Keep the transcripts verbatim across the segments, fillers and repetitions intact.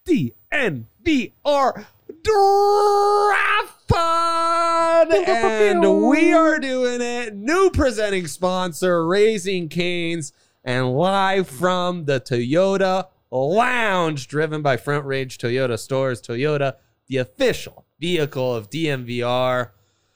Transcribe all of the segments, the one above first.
D N V R Draft Pod, and we are doing it. New presenting sponsor, Raising Cane's, and live from the Toyota Lounge, driven by Front Range Toyota Stores. Toyota, the official vehicle of D N V R.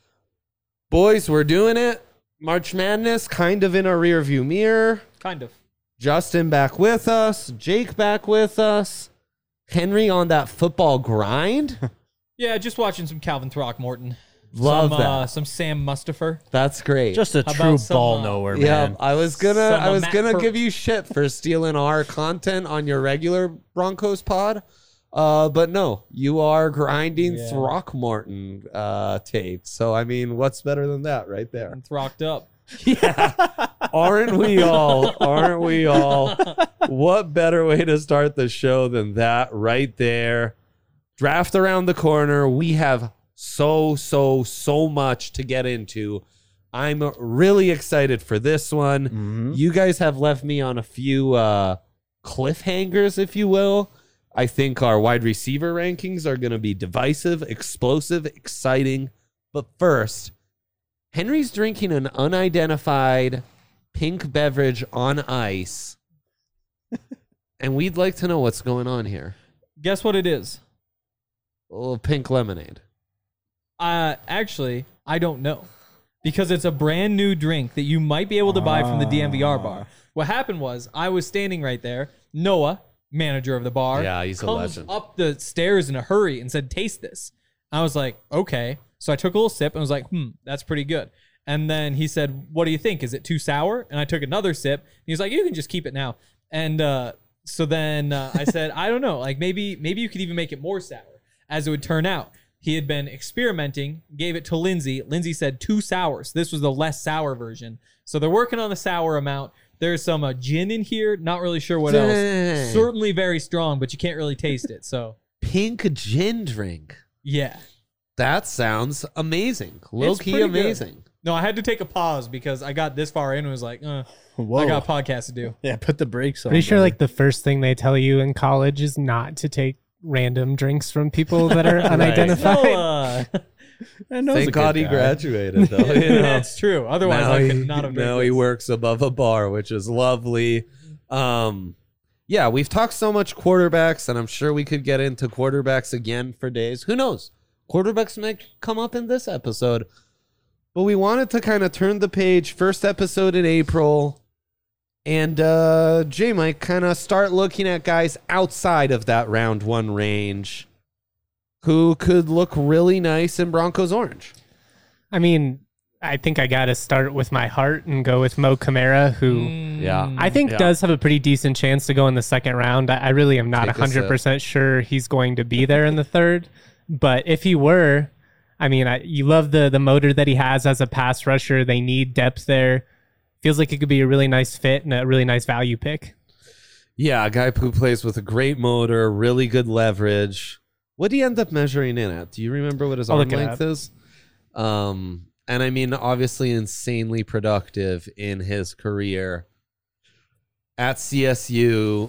Boys, we're doing it. March Madness kind of in our rear view mirror. Kind of. Justin back with us. Jake back with us. Henry on that football grind. Yeah, just watching some Calvin Throckmorton. Love some, that. Uh, some Sam Mustafer. That's great. Just a How true some, ball uh, knower, yeah, man. I was gonna, Some, I uh, was Matt gonna Per- give you shit for stealing our content on your regular Broncos pod, uh, but no, you are grinding Yeah. Throckmorton uh, tape. So I mean, what's better than that, right there? And throcked up. Yeah, aren't we all? Aren't we all? What better way to start the show than that right there? Draft around the corner. We have so, so, so much to get into. I'm really excited for this one. Mm-hmm. You guys have left me on a few uh, cliffhangers, if you will. I think our wide receiver rankings are going to be divisive, explosive, exciting. But first, Henry's drinking an unidentified pink beverage on ice. And we'd like to know what's going on here. Guess what it is? A little pink lemonade. Uh, actually, I don't know. Because it's a brand new drink that you might be able to buy from the D N V R bar. What happened was, I was standing right there. Noah, manager of the bar, Yeah, he's a comes legend. up the stairs in a hurry and said, "Taste this." I was like, okay. So I took a little sip and was like, hmm, that's pretty good. And then he said, what do you think? Is it too sour? And I took another sip. He was like, you can just keep it now. And uh, so then uh, I said, I don't know. Like maybe maybe you could even make it more sour, as it would turn out. He had been experimenting, gave it to Lindsay. Lindsay said too sour. So this was the less sour version. So they're working on the sour amount. There's some uh, gin in here. Not really sure what Dang. else. Certainly very strong, but you can't really taste it. So Pink gin drink. yeah. That sounds amazing. Low It's key pretty good. amazing. No, I had to take a pause because I got this far in and was like, uh, Whoa. I got a podcast to do. Yeah, put the brakes on. Pretty sure buddy. like the first thing they tell you in college is not to take random drinks from people that are unidentified. Well, uh, I know he's a Thank good God he guy. graduated, though. You know? that's true. Otherwise, now I he, could not have. now made he this. works above a bar, which is lovely. Um, yeah, we've talked so much quarterbacks, and I'm sure we could get into quarterbacks again for days. Who knows? Quarterbacks might come up in this episode. But we wanted to kind of turn the page. First episode in April. And uh, Jay might kind of start looking at guys outside of that round one range who could look really nice in Broncos orange. I mean, I think I got to start with my heart and go with Mo Camara, who Yeah. I think Yeah. does have a pretty decent chance to go in the second round. I, I really am not Take a one hundred percent sure he's going to be there in the third. But if he were, I mean, I, you love the the motor that he has as a pass rusher. They need depth there. Feels like it could be a really nice fit and a really nice value pick. Yeah, a guy who plays with a great motor, really good leverage. What did he end up measuring in at? Do you remember what his I'll arm look it length is? Um, and I mean, obviously insanely productive in his career at C S U.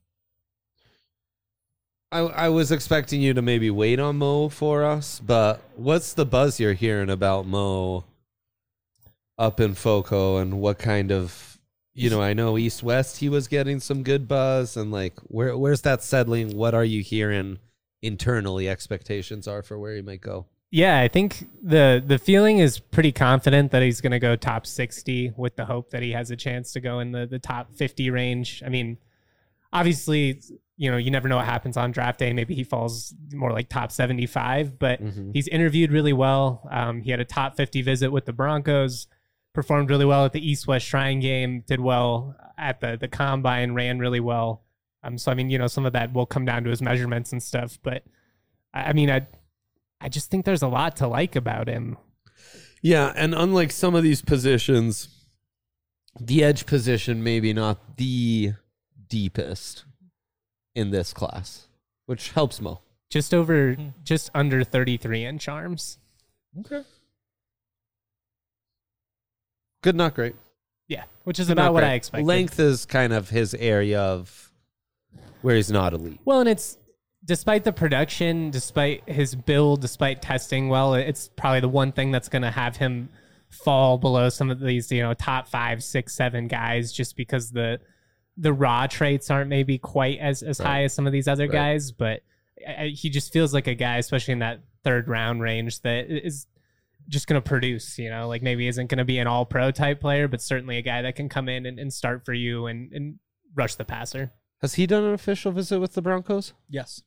I, I was expecting you to maybe wait on Mo for us, but what's the buzz you're hearing about Mo up in Foco, and what kind of, you know, I know East West he was getting some good buzz, and like where where's that settling? What are you hearing internally expectations are for where he might go? Yeah, I think the the feeling is pretty confident that he's going to go top sixty, with the hope that he has a chance to go in the, the top fifty range. I mean, obviously, you know, you never know what happens on draft day. Maybe he falls more like top seventy-five, but Mhm. he's interviewed really well. Um, he had a top fifty visit with the Broncos, performed really well at the East-West Shrine game, did well at the, the Combine, ran really well. Um, so, I mean, you know, some of that will come down to his measurements and stuff, but I, I mean, I I just think there's a lot to like about him. Yeah, and unlike some of these positions, the edge position maybe not the deepest in this class, which helps Mo. Just over, just under thirty-three inch arms. Okay. Good, not great. Yeah, which is Good, about not what great. I expected. Length is kind of his area of where he's not elite. Well, and it's despite the production, despite his build, despite testing well, it's probably the one thing that's going to have him fall below some of these, you know, top five, six, seven guys, just because the the raw traits aren't maybe quite as, as Right. high as some of these other Right. guys. But I, he just feels like a guy, especially in that third round range, that is just going to produce, you know, like maybe isn't going to be an all pro type player, but certainly a guy that can come in and, and start for you and, and rush the passer. Has he done an official visit with the Broncos? Yes.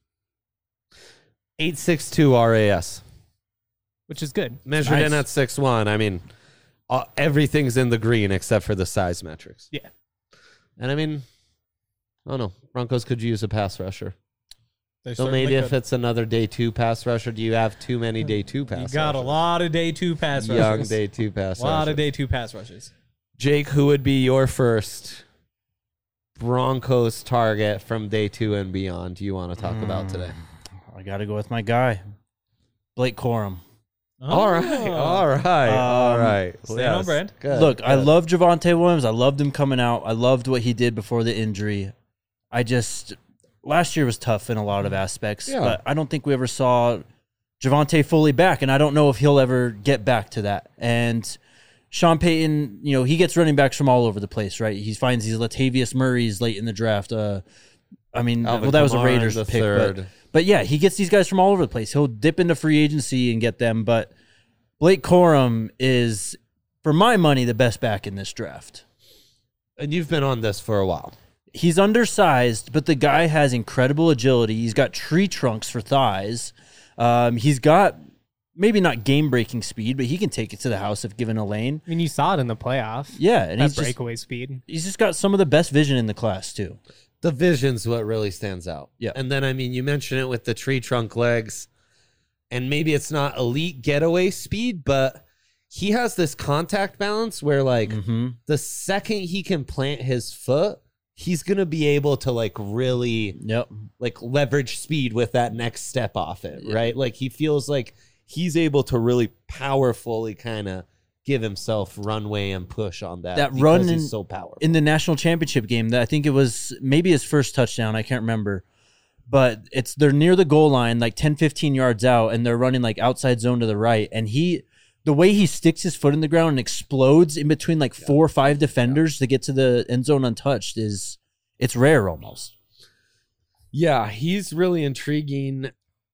eight six two R A S. Which is good. Measured Nice. in at six one. I mean, uh, everything's in the green except for the size metrics. Yeah. And I mean, I don't know. Broncos could use a pass rusher. They So certainly maybe if could. it's another day two pass rusher, do you have too many day two pass you rushers? got a lot of day two pass rushers. Young day two pass A lot rushers. of day two pass rushes. Jake, who would be your first Broncos target from day two and beyond do you want to talk about today? I got to go with my guy, Blake Corum. All right. All right. all Um, right. staying on brand. Good, Look, I good. love Javonte Williams. I loved him coming out. I loved what he did before the injury. I just last year was tough in a lot of aspects, Yeah. but I don't think we ever saw Javonte fully back, and I don't know if he'll ever get back to that. And Sean Payton, you know, he gets running backs from all over the place, right? He finds these Latavius Murrays late in the draft. Uh, I mean, Alvin well, that was a Kamara Raiders the pick, third. but, but yeah, he gets these guys from all over the place. He'll dip into free agency and get them, but Blake Corum is, for my money, the best back in this draft. And you've been on this for a while. He's undersized, but the guy has incredible agility. He's got tree trunks for thighs. Um, he's got maybe not game-breaking speed, but he can take it to the house if given a lane. I mean, you saw it in the playoff. Yeah, and That he's just, breakaway speed. he's just got some of the best vision in the class, too. The vision's what really stands out. Yeah. And then, I mean, you mentioned it with the tree trunk legs, and maybe it's not elite getaway speed, but he has this contact balance where, like, Mm-hmm. the second he can plant his foot, he's going to be able to, like, really, Yep. like, leverage speed with that next step off it, Yeah. right? Like, he feels like he's able to really powerfully kind of give himself runway and push on that. That because run he's in- so powerful. In the national championship game, that I think it was maybe his first touchdown. I can't remember. But it's they're near the goal line, like ten, fifteen yards out, and they're running like outside zone to the right. And he, the way he sticks his foot in the ground and explodes in between like four or five defenders to get to the end zone untouched is, it's rare almost. Yeah, he's really intriguing.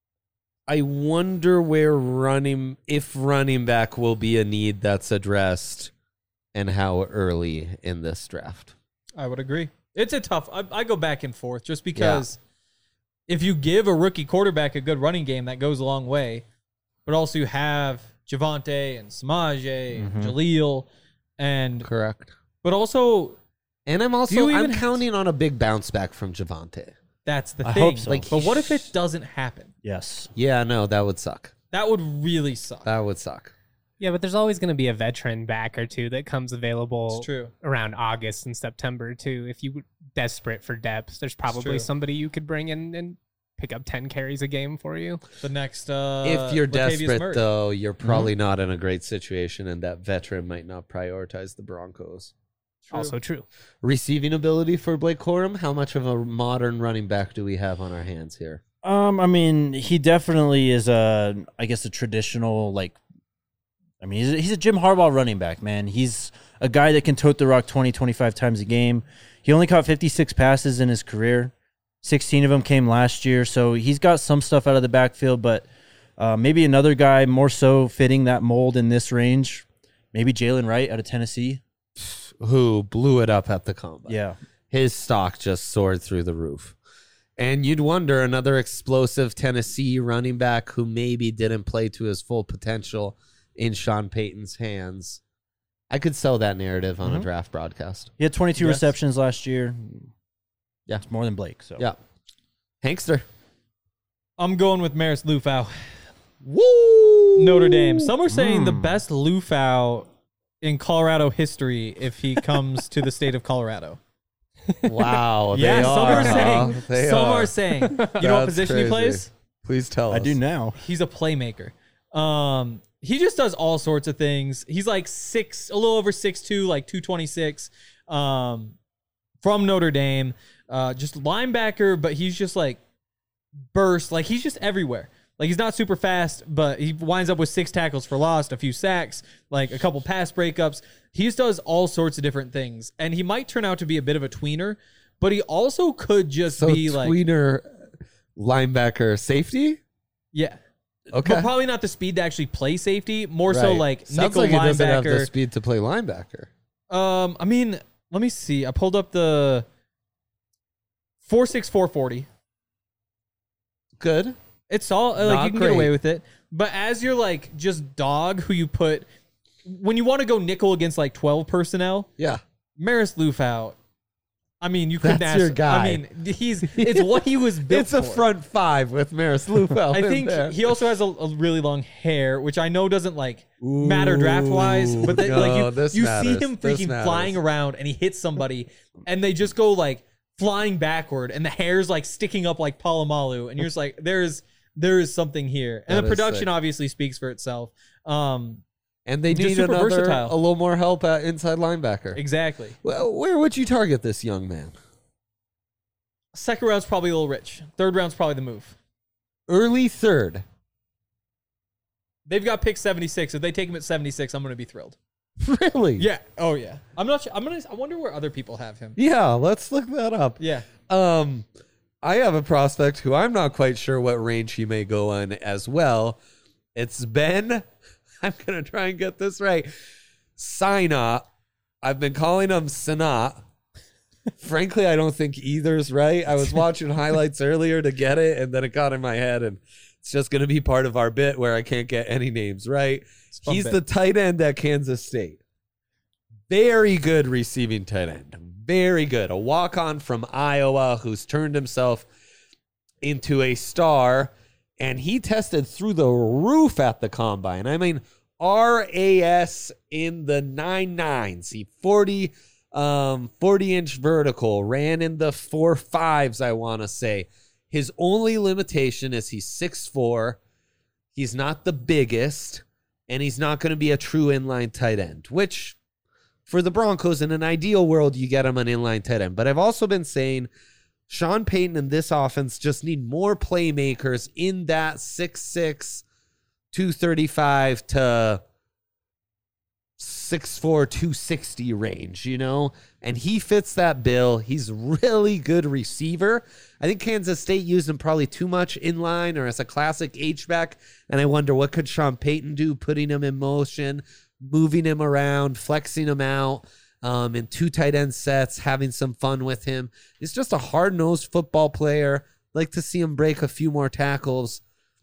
I wonder where running, if running back will be a need that's addressed and how early in this draft. I would agree. It's a tough. I, I go back and forth just because if you give a rookie quarterback a good running game, that goes a long way. But also you have Javonte and Samaje and Mhm. Jaleel, and Correct. but also And I'm Do also you I'm even have counting on a big bounce back from Javonte. that's the I thing. hope so. Like, but what if it doesn't happen? Yes. Yeah, no, that would suck. That would really suck. That would suck. Yeah, but there's always going to be a veteran back or two that comes available It's true. around August and September too. If you desperate for depth, there's probably true. somebody you could bring in and pick up ten carries a game for you. The next, uh, if you're Latavius desperate, Murray. though, you're probably not in a great situation, and that veteran might not prioritize the Broncos. True. Also true. Receiving ability for Blake Corum, how much of a modern running back do we have on our hands here? Um, I mean, he definitely is a, I guess, a traditional, like, I mean, he's a, he's a Jim Harbaugh running back, man. He's a guy that can tote the rock twenty, twenty-five times a game. He only caught fifty-six passes in his career. sixteen of them came last year, so he's got some stuff out of the backfield, but uh, maybe another guy more so fitting that mold in this range. Maybe Jalen Wright out of Tennessee. Who blew it up at the combine. Yeah. His stock just soared through the roof. And you'd wonder another explosive Tennessee running back who maybe didn't play to his full potential in Sean Payton's hands. I could sell that narrative on Mhm. a draft broadcast. He had twenty-two Yes. receptions last year. Yeah. It's more than Blake. So Yeah. Hankster. I'm going with Maris Lufau, Woo! Notre Dame. Some are saying the Mm. best Lufau in Colorado history if he comes to the state of Colorado. Wow. They yeah, some are, are huh? saying. They some are. are saying. You know what That's position he crazy. plays? Please tell us. I do now. He's a playmaker. Um, he just does all sorts of things. He's like six, a little over six two, like two twenty six. Um, from Notre Dame, uh, just linebacker, but he's just like burst. Like, he's just everywhere. Like, he's not super fast, but he winds up with six tackles for loss, a few sacks, like a couple pass breakups. He just does all sorts of different things. And he might turn out to be a bit of a tweener, but he also could just So be like... tweener linebacker safety? Yeah. Okay. But probably not the speed to actually play safety. More so Right. like Sounds nickel like he doesn't have the linebacker. speed to play linebacker. Um, I mean, let me see. I pulled up the four six four forty. Good. It's all like Not you can great. get away with it. But as you're like just dog who you put when you want to go nickel against like twelve personnel, Yeah. Maris Lufau. I mean, you couldn't That's ask. your guy. I mean, he's it's what he was built It's a for. front five with Maris Lufau. I in think there. he also has a, a really long hair, which I know doesn't like matter draft wise, but the, no, like you, this you matters. see him This freaking matters. flying around and he hits somebody and they just go like flying backward and the hair's like sticking up like Palomalu and you're just like there's there is something here and That the is production sick. obviously speaks for itself. Um, and they just need super another, versatile. a little more help at inside linebacker. exactly. Well, where would you target this young man? Second round's probably a little rich. Third round's probably the move. Early third. They've got pick seventy-six. If they take him at seventy-six, I'm going to be thrilled. Really? Yeah. Oh yeah. I'm not. Sure. I'm gonna. I wonder where other people have him. Yeah, let's look that up. Yeah. Um, I have a prospect who I'm not quite sure what range he may go in as well. It's Ben. I'm gonna try and get this right. Sinat. I've been calling him Sinat. Frankly, I don't think either's right. I was watching highlights earlier to get it, and then it got in my head, and it's just gonna be part of our bit where I can't get any names right. a fun He's bit. the tight end at Kansas State. Very good receiving tight end. Very good. A walk-on from Iowa who's turned himself into a star, and he tested through the roof at the combine. I mean, R A S in the nine nines. He forty, um, forty inch vertical, ran in the four fives, I want to say. His only limitation is he's six four. He's not the biggest, and he's not going to be a true inline tight end, which for the Broncos, in an ideal world, you get him an inline tight end. But I've also been saying Sean Payton and this offense just need more playmakers in that six six, two thirty-five to six four, two sixty range, you know? And he fits that bill. He's really good receiver. I think Kansas State used him probably too much in line or as a classic H-back. And I wonder what could Sean Payton do, putting him in motion, moving him around, flexing him out um, in two tight end sets, having some fun with him. He's just a hard-nosed football player. Like to see him break a few more tackles.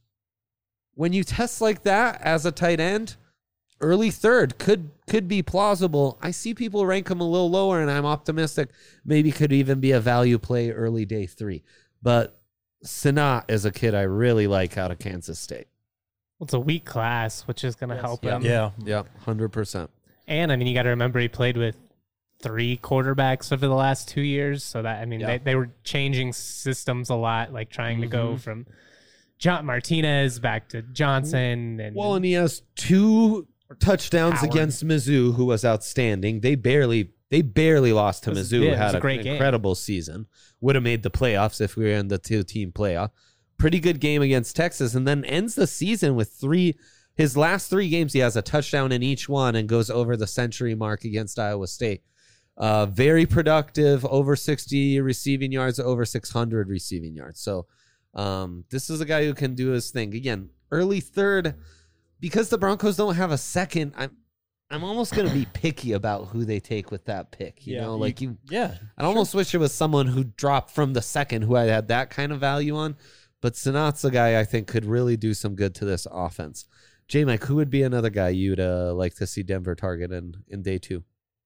When you test like that as a tight end, early third could could be plausible. I see people rank him a little lower, and I'm optimistic maybe could even be a value play early day three. But Sinat is a kid I really like out of Kansas State. Well, it's a weak class, which is going to Yes. help Yeah. him. Yeah. Yep, one hundred percent. And I mean, you got to remember he played with three quarterbacks over the last two years. So that, I mean, Yeah. they, they were changing systems a lot, like trying to go Mhm. from John Martinez back to Johnson. And Well, and he has two touchdowns Howard. against Mizzou, who was outstanding. They barely they barely lost to It was- Mizzou, yeah, who it was had a an great game. incredible season. Would have made the playoffs if we were in the two-team playoff. Pretty good game against Texas, and then ends the season with three. His last three games, he has a touchdown in each one and goes over the century mark against Iowa State. Uh, very productive, over sixty receiving yards, over six hundred receiving yards. So um, this is a guy who can do his thing. Again, early third, because the Broncos don't have a second, I'm I'm almost going to be picky about who they take with that pick. You Yeah, know, you- like you, Yeah. I almost wish it was someone who dropped from the second who I had that kind of value on. But Sinat's a guy I think could really do some good to this offense. J Mike, who would be another guy you'd uh, like to see Denver target in, in day two?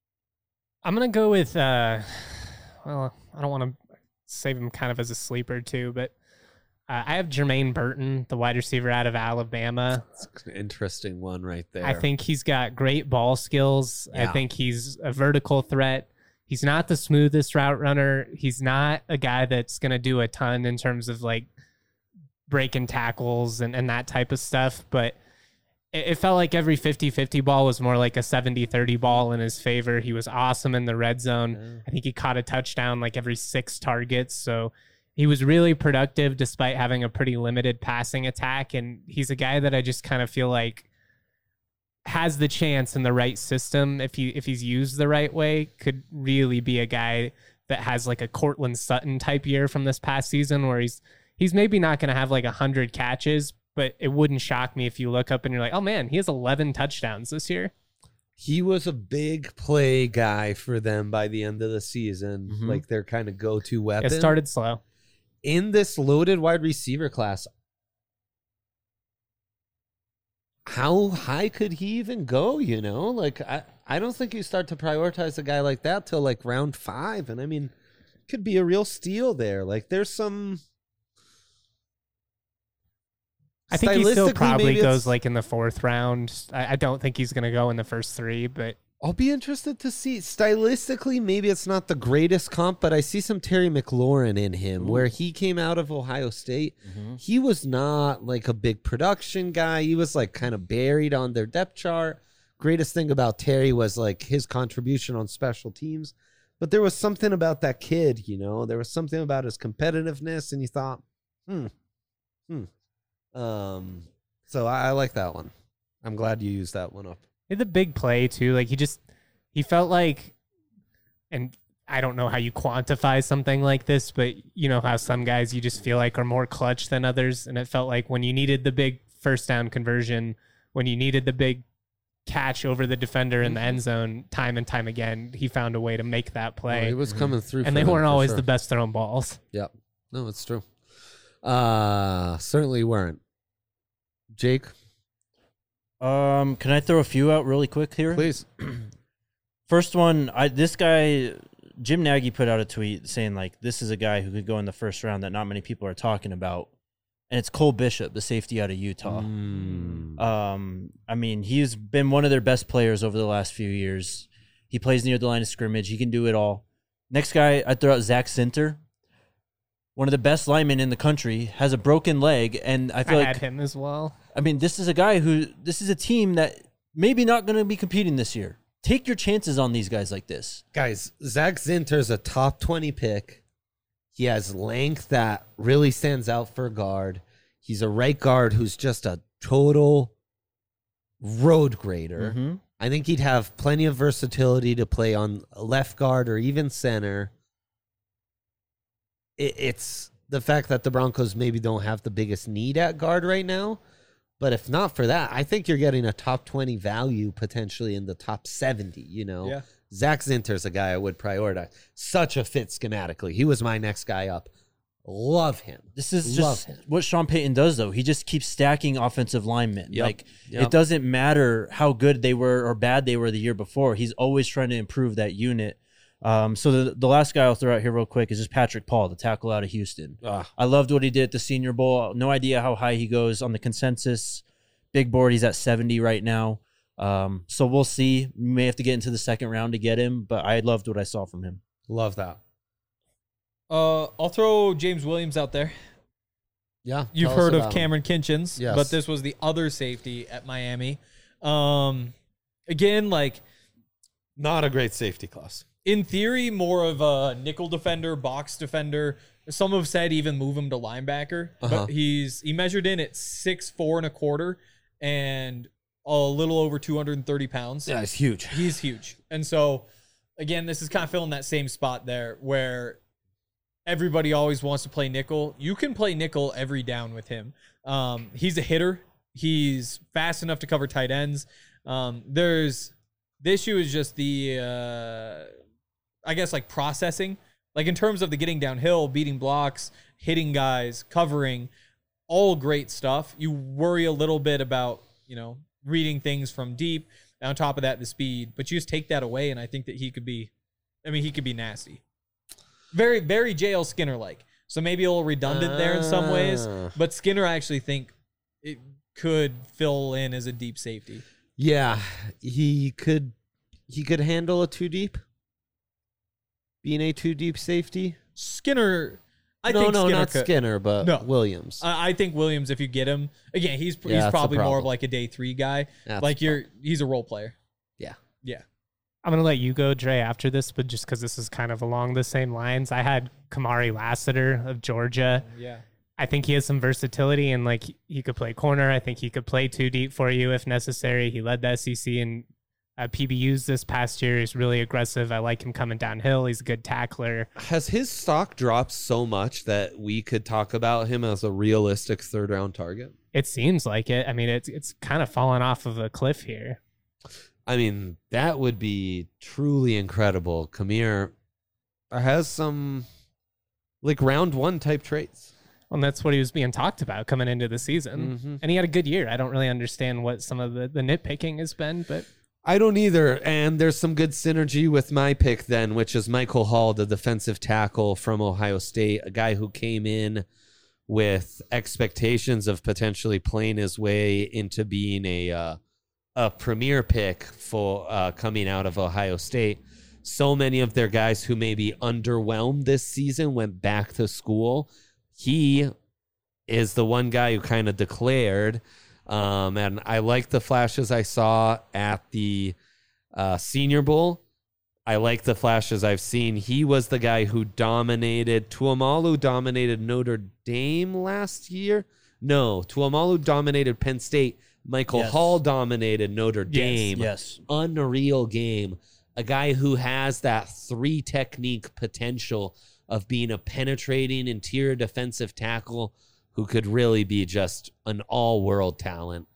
I'm going to go with, uh, well, I don't want to save him kind of as a sleeper too, but uh, I have Jermaine Burton, the wide receiver out of Alabama. It's an interesting one right there. I think he's got great ball skills. I Yeah. think he's a vertical threat. He's not the smoothest route runner. He's not a guy that's going to do a ton in terms of like breaking tackles and, and that type of stuff. But it, it felt like every fifty-fifty ball was more like a seventy-thirty ball in his favor. He was awesome in the red zone. I think he caught a touchdown like every six targets. So he was really productive despite having a pretty limited passing attack. And he's a guy that I just kind of feel like has the chance in the right system, if he if he's used the right way, could really be a guy that has like a Cortland Sutton type year from this past season, where he's he's maybe not going to have like a hundred catches, but it wouldn't shock me if you look up and you're like, oh man, he has eleven touchdowns this year. He was a big play guy for them by the end of the season, Mhm. like their kind of go-to weapon. It started slow. In this loaded wide receiver class, how high could he even go, you know? Like, I, I don't think you start to prioritize a guy like that till, like, round five. And, I mean, could be a real steal there. Like, there's some... I think he still Stylistically, probably maybe goes it's- like in the fourth round. I, I don't think he's going to go in the first three, but I'll be interested to see. Stylistically, maybe it's not the greatest comp, but I see some Terry McLaurin in him, where he came out of Ohio State. Mhm. He was not like a big production guy. He was like kind of buried on their depth chart. Greatest thing about Terry was like his contribution on special teams. But there was something about that kid, you know, there was something about his competitiveness, and you thought, hmm, hmm. Um, so I, I like that one. I'm glad you used that one up. he had the big play too. Like he just, he felt like, and I don't know how you quantify something like this, but you know how some guys you just feel like are more clutch than others. And it felt like when you needed the big first down conversion, when you needed the big catch over the defender in the end zone, time and time again, he found a way to make that Oh, play. he was coming through, and for they them, weren't for always sure. the best thrown balls. Yep. No, it's true. Uh, certainly weren't. Jake, Um, can I throw a few out really quick here? please. First one, I this guy Jim Nagy put out a tweet saying like this is a guy who could go in the first round that not many people are talking about, and it's Cole Bishop, the safety out of Utah. Mm. Um, I mean, he's been one of their best players over the last few years. He plays near the line of scrimmage. He can do it all. Next guy, I throw out Zach Sinter, one of the best linemen in the country, has a broken leg, and I I feel had like him as well. I mean, this is a guy who this is a team that maybe not going to be competing this year. Take your chances on these guys like this. Guys, Zach Zinter's a top twenty pick. He has length that really stands out for a guard. He's a right guard who's just a total road grader. Mhm. I think he'd have plenty of versatility to play on left guard or even center. It, it's the fact that the Broncos maybe don't have the biggest need at guard right now. But if not for that, I think you're getting a top twenty value potentially in the top seventy, you know? Yeah. Zach Zinter's a guy I would prioritize. Such a fit schematically. He was my next guy up. Love him. This is Love just him. what Sean Payton does, though. He just keeps stacking offensive linemen. Yep. Like, Yep. it doesn't matter how good they were or bad they were the year before. He's always trying to improve that unit. Um, so the, the last guy I'll throw out here real quick is just Patrick Paul, the tackle out of Houston. Ah. I loved what he did at the Senior Bowl. No idea how high he goes on the consensus. Big board, he's at seventy right now. Um, so we'll see. We may have to get into the second round to get him, but I loved what I saw from him. Love that. Uh, I'll throw James Williams out there. Yeah. You've tell us heard of about him. Cameron Kinchins, Yes. but this was the other safety at Miami. Um, again, like Not a great safety class. in theory, more of a nickel defender, box defender. Some have said even move him to linebacker, Uh-huh. but he's he measured in at six four and a quarter and a little over two hundred thirty pounds. Yeah, it's huge. He's huge. And so, again, this is kind of filling that same spot there where everybody always wants to play nickel. You can play nickel every down with him. Um, he's a hitter. He's fast enough to cover tight ends. Um, there's the issue is just the, uh, I guess, like processing. Like in terms of the getting downhill, beating blocks, hitting guys, covering, all great stuff. You worry a little bit about, you know, reading things from deep. On top of that, the speed. But you just take that away, and I think that he could be, I mean, he could be nasty. Very, very J L Skinner like. So maybe a little redundant there in some ways. Ah. But Skinner, I actually think it could fill in as a deep safety. Yeah, he could he could handle a two deep. Being a two deep safety. Skinner, I no, think no, Skinner not could. Skinner, but No. Williams. I I think Williams, if you get him, again, he's Yeah, he's that's the probably more of problem. like a day three guy. That's like the you're, he's a role player. Yeah. Yeah. I'm going to let you go, Dre, after this, but just because this is kind of along the same lines, I had Kamari Lassiter of Georgia. Yeah. I think he has some versatility and like he could play corner. I think he could play too deep for you if necessary. He led the S E C in uh, P B Us this past year. He's really aggressive. I like him coming downhill. He's a good tackler. Has his stock dropped so much that we could talk about him as a realistic third round target? It seems like it. I mean, it's it's kind of fallen off of a cliff here. I mean, that would be truly incredible. Kamir has some like round one type traits. Well, and that's what he was being talked about coming into the season. Mm-hmm. And he had a good year. I don't really understand what some of the, the nitpicking has been, but I don't either. And there's some good synergy with my pick then, which is Michael Hall, the defensive tackle from Ohio State, a guy who came in with expectations of potentially playing his way into being a uh, a premier pick for uh, coming out of Ohio State. So many of their guys who maybe underwhelmed this season went back to school. He is the one guy who kind of declared, um, and I like the flashes I saw at the uh, Senior Bowl. I like the flashes I've seen. He was the guy who dominated. Tuamalu dominated Notre Dame last year. No, Tuamalu dominated Penn State. Michael Yes. Hall dominated Notre Dame. Yes. Unreal game. A guy who has that three technique potential of being a penetrating interior defensive tackle who could really be just an all-world talent.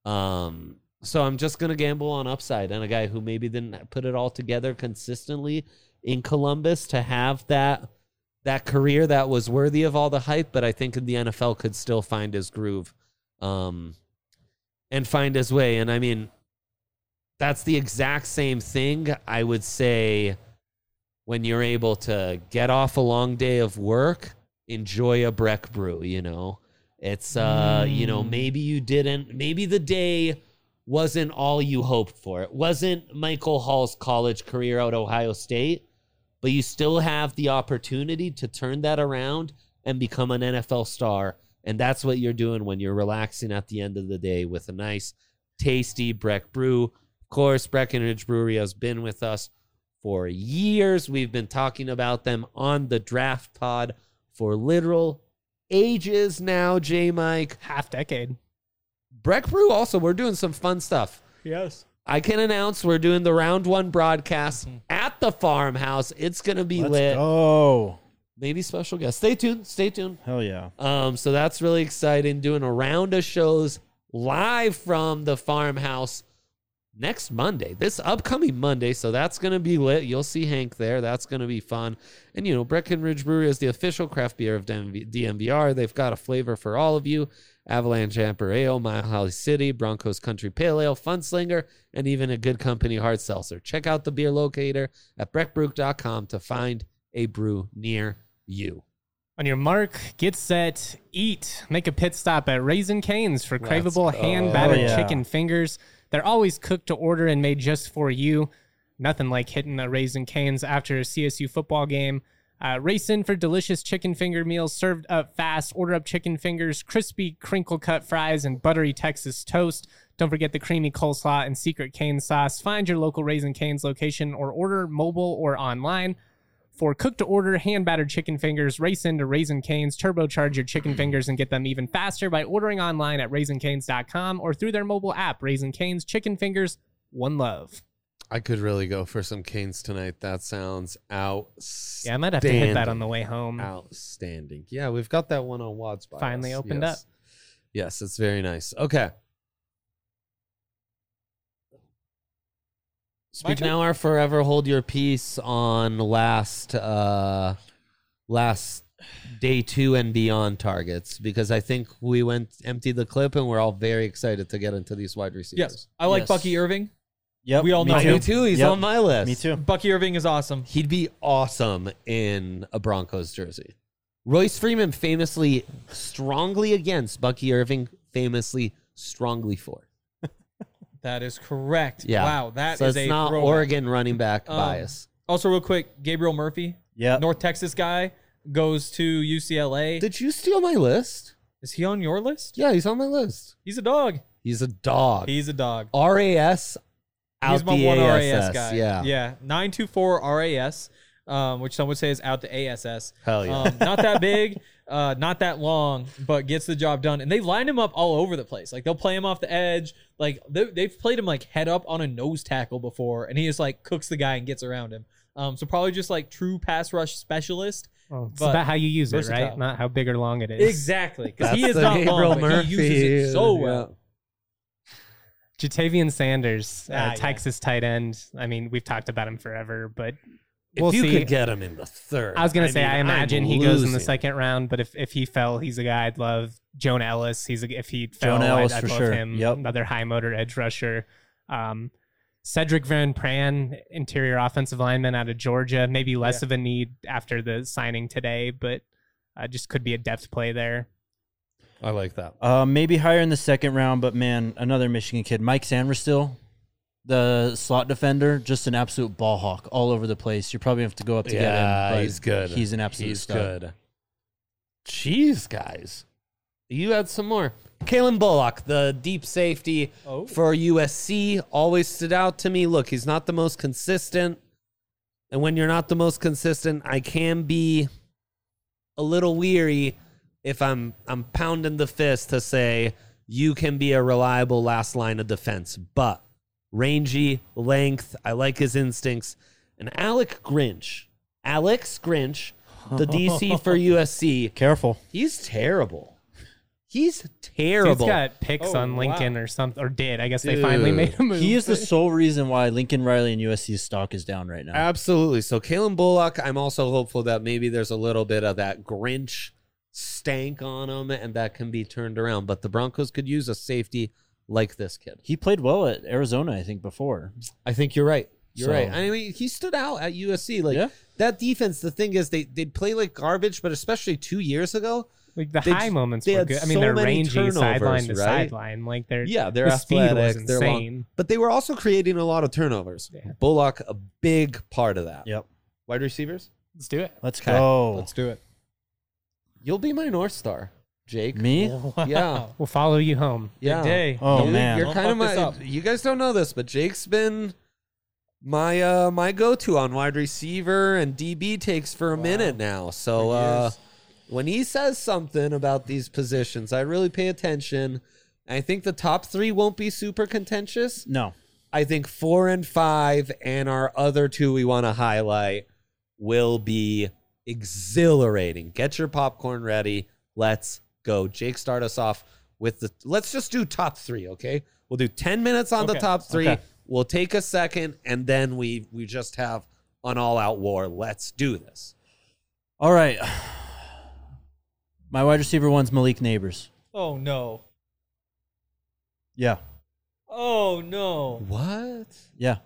Um, so I'm just going to gamble on upside and a guy who maybe didn't put it all together consistently in Columbus to have that that career that was worthy of all the hype, but I think in the N F L could still find his groove um, and find his way. And I mean, that's the exact same thing I would say when you're able to get off a long day of work, enjoy a Breck brew, you know. It's, uh, mm. you know, maybe you didn't, maybe the day wasn't all you hoped for. It wasn't Michael Hall's college career out of Ohio State, but you still have the opportunity to turn that around and become an N F L star. And that's what you're doing when you're relaxing at the end of the day with a nice, tasty Breck brew. Of course, Breckenridge Brewery has been with us for years. We've been talking about them on the Draft Pod for literal ages now, J-Mike. half decade. Breck Brew also, we're doing some fun stuff. Yes. I can announce we're doing the round one broadcast mm-hmm. at the farmhouse. It's going to be Let's lit. go. Maybe special guests. Stay tuned. Stay tuned. Hell yeah. Um, so that's really exciting. Doing a round of shows live from the farmhouse next Monday, this upcoming Monday. So that's going to be lit. You'll see Hank there. That's going to be fun. And, you know, Breckenridge Brewery is the official craft beer of D M V R. They've got a flavor for all of you. Avalanche Amper Ale, Mile High City, Broncos Country Pale Ale, Funslinger, and even a Good Company hard seltzer. Check out the beer locator at breck brew dot com to find a brew near you. On your mark, get set, eat. Make a pit stop at Raising Cane's for craveable hand-battered yeah. chicken fingers. They're always cooked to order and made just for you. Nothing like hitting a Raising Cane's after a C S U football game. Uh, race in for delicious chicken finger meals served up fast. Order up chicken fingers, crispy crinkle-cut fries, and buttery Texas toast. Don't forget the creamy coleslaw and secret cane sauce. Find your local Raising Cane's location or order mobile or online. For cook-to-order, hand-battered chicken fingers, race into Raising Cane's, turbocharge your chicken fingers, and get them even faster by ordering online at raising canes dot com or through their mobile app. Raising Cane's, chicken fingers, one love. I could really go for some Canes tonight. That sounds outstanding. Yeah, I might have to hit that on the way home. Outstanding. Yeah, we've got that one on Wads by Finally us. opened yes. up. Yes, it's very nice. Okay. Speak now or forever hold your peace on last uh, last day two and beyond targets, because I think we went empty the clip and we're all very excited to get into these wide receivers. Yes, I like Yes. Bucky Irving. Yep. We all me know too. him. Me too. He's Yep. on my list. Me too. Bucky Irving is awesome. He'd be awesome in a Broncos jersey. Royce Freeman famously strongly against, Bucky Irving famously strongly for. That is correct. Yeah. Wow, that so is it's a not throwback. Oregon running back Um, bias. Also, real quick, Gabriel Murphy, Yeah. North Texas guy, goes to U C L A. Did you steal my list? Is he on your list? Yeah, he's on my list. He's a dog. He's a dog. He's a dog. R A S out He's my the one A R S A S. S guy. Yeah. Yeah. nine two four R A S, um, which some would say is out the A S S. Hell yeah. Um, not that big, uh, not that long, but gets the job done. And they line him up all over the place. Like they'll play him off the edge. Like they, they've played him like head up on a nose tackle before, and he just like cooks the guy and gets around him. Um, so probably just like true pass rush specialist. Well, it's but about how you use it, versatile. right? Not how big or long it is. Exactly, because he That's is the not Gabriel long, but he uses it so Murphy, well. Jatavian Sanders, uh, Ah, yeah. Texas tight end. I mean, we've talked about him forever, but If we'll you see. could get him in the third. I was gonna say, mean, I I'm imagine he goes in the losing. second round, but if, if he fell, he's a guy I'd love. Jonah Ellis, he's a, if he fell, Jonah Ellis I'd, I'd for love sure. him. Yep. Another high motor edge rusher. Um, Cedric Van Pran, interior offensive lineman out of Georgia. Maybe less Yeah. of a need after the signing today, but uh, just could be a depth play there. I like that. Uh, maybe higher in the second round, but man, another Michigan kid, Mike Sanders, the slot defender, just an absolute ball hawk all over the place. You probably have to go up to get him. Yeah, But he's good. He's an absolute He's stud. good. Jeez, guys. You had some more. Kalen Bullock, the deep safety Oh. for U S C, always stood out to me. Look, he's not the most consistent. And when you're not the most consistent, I can be a little weary if I'm I'm pounding the fist to say you can be a reliable last line of defense. But rangy, length, I like his instincts. And Alec Grinch, Alex Grinch, the D C for U S C, Careful. he's terrible. He's He's terrible. got picks Oh, on Lincoln wow. or something, or did. I guess they finally Dude. made a move. He is the sole reason why Lincoln Riley and U S C's stock is down right now. Absolutely. So Kalen Bullock, I'm also hopeful that maybe there's a little bit of that Grinch stank on him and that can be turned around. But the Broncos could use a safety like this kid. He played well at Arizona, I think, before. I think you're right. You're So- right. I mean, he stood out at U S C. Like Yeah. that defense, the thing is they they'd play like garbage, but especially two years ago. Like the They high j- moments they were had good. I mean, so they're many rangy turnovers, sideline to right? sideline. Like their Yeah, they're the speed was athletic, they're long. insane. But they were also creating a lot of turnovers. Yeah. Bullock, a big part of that. Yep. Wide receivers? Let's do it. Let's Okay. go. Let's do it. You'll be my North Star, Jake. Me? Yeah. We'll follow you home. Yeah. Good day. Oh, You- man. You're Don't kind of fuck this my. up. You guys don't know this, but Jake's been my uh my go-to on wide receiver and D B takes for a minute now. So For uh years. when he says something about these positions, I really pay attention. I think the top three won't be super contentious. No. I think four and five and our other two we want to highlight will be exhilarating. Get your popcorn ready. Let's go. Jake, start us off with the. Let's just do top three, okay? We'll do ten minutes on the Okay. top three. Okay. We'll take a second, and then we we just have an all-out war. Let's do this. All right. My wide receiver one's Malik Neighbors. Oh no. Yeah. Oh no. What? Yeah.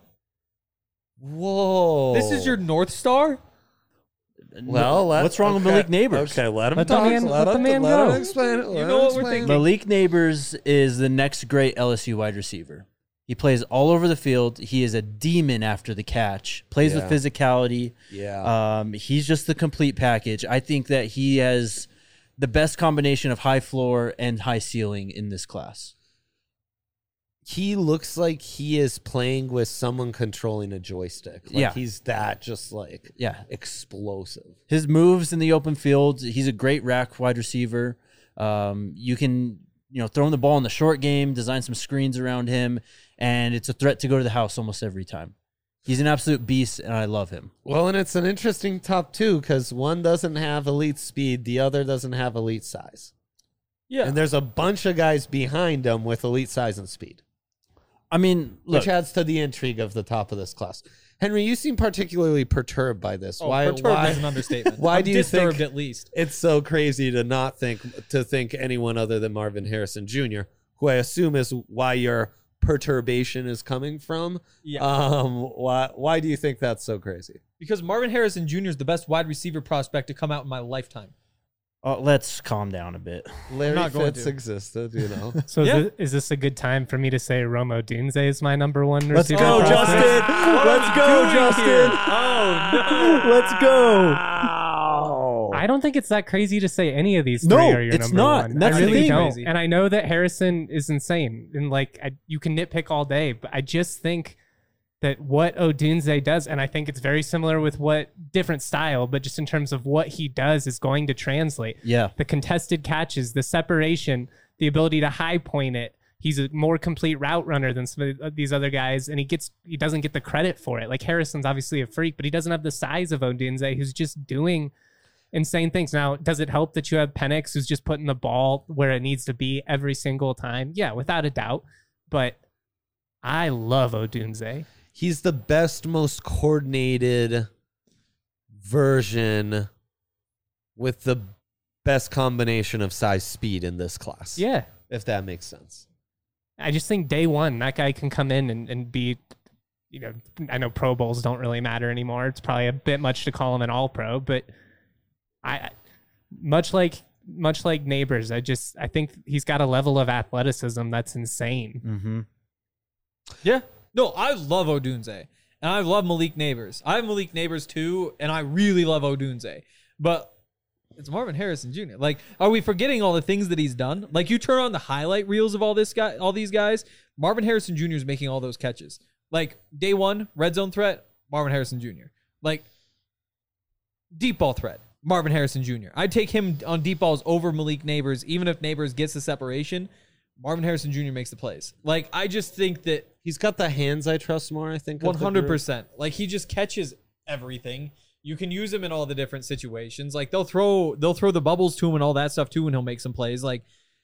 Whoa! This is your North Star? well. Let, What's wrong with okay. Malik Neighbors? Okay, let him Let the talk. man- let let the him, man let go. him explain it. Let You him know what we're explain it. thinking. Malik Neighbors is the next great L S U wide receiver. He plays all over the field. He is a demon after the catch. Plays Yeah. with physicality. Yeah. Um, he's just the complete package. I think that he has the best combination of high floor and high ceiling in this class. He looks like he is playing with someone controlling a joystick. Like Yeah. he's that just like Yeah. explosive. His moves in the open field, he's a great rack wide receiver. Um, you can, you know, throw him the ball in the short game, design some screens around him, and it's a threat to go to the house almost every time. He's an absolute beast, and I love him. Well, and it's an interesting top two because one doesn't have elite speed, the other doesn't have elite size. Yeah. And there's a bunch of guys behind him with elite size and speed, I mean, look, which adds to the intrigue of the top of this class. Henry, you seem particularly perturbed by this. oh, why? perturbed why? is an understatement. why I'm do you disturbed think- at least? It's so crazy to not think to think anyone other than Marvin Harrison Junior, who I assume is why your perturbation is coming from. Yeah. Um. Why? Why do you think that's so crazy? Because Marvin Harrison Junior is the best wide receiver prospect to come out in my lifetime. uh, let's calm down a bit. Larry not going Fitz to. existed, you know. So Yeah. is, this, is this a good time for me to say Romo Dunze is my number one Let's receiver? go, prospect? Justin. Let's go, Justin. Oh no. Let's go. I don't think it's that crazy to say any of these three No, are your it's number not. one. That's I the really thing. don't. Crazy. And I know that Harrison is insane, and like I, you can nitpick all day, but I just think that what Odunze does, and I think it's very similar with what different style, but just in terms of what he does is going to translate. Yeah. The contested catches, the separation, the ability to high point it. He's a more complete route runner than some of these other guys, and he gets he doesn't get the credit for it. Like Harrison's obviously a freak, but he doesn't have the size of Odunze, who's just doing insane things. Now, does it help that you have Penix, who's just putting the ball where it needs to be every single time? Yeah, without a doubt. But I love Odunze. He's the best, most coordinated version with the best combination of size speed in this class. Yeah. If that makes sense. I just think day one, that guy can come in and, and be, you know, I know Pro Bowls don't really matter anymore. It's probably a bit much to call him an all pro, but I, much like, much like Neighbors, I just, I think he's got a level of athleticism that's insane. Mm-hmm. Yeah. No, I love Odunze. And I love Malik Neighbors. I have Malik Neighbors too, and I really love Odunze. But it's Marvin Harrison Junior Like, are we forgetting all the things that he's done? Like, you turn on the highlight reels of all this guy, all these guys. Marvin Harrison Junior is making all those catches. Like, day one, red zone threat, Marvin Harrison Junior Like, deep ball threat, Marvin Harrison Junior I'd take him on deep balls over Malik Neighbors, even if Neighbors gets the separation. Marvin Harrison Junior makes the plays. Like, I just think that He's got the hands I trust more, I think. one hundred percent. Like, he just catches everything. You can use him in all the different situations. Like, they'll throw they'll throw the bubbles to him and all that stuff too, and he'll make some plays. Like,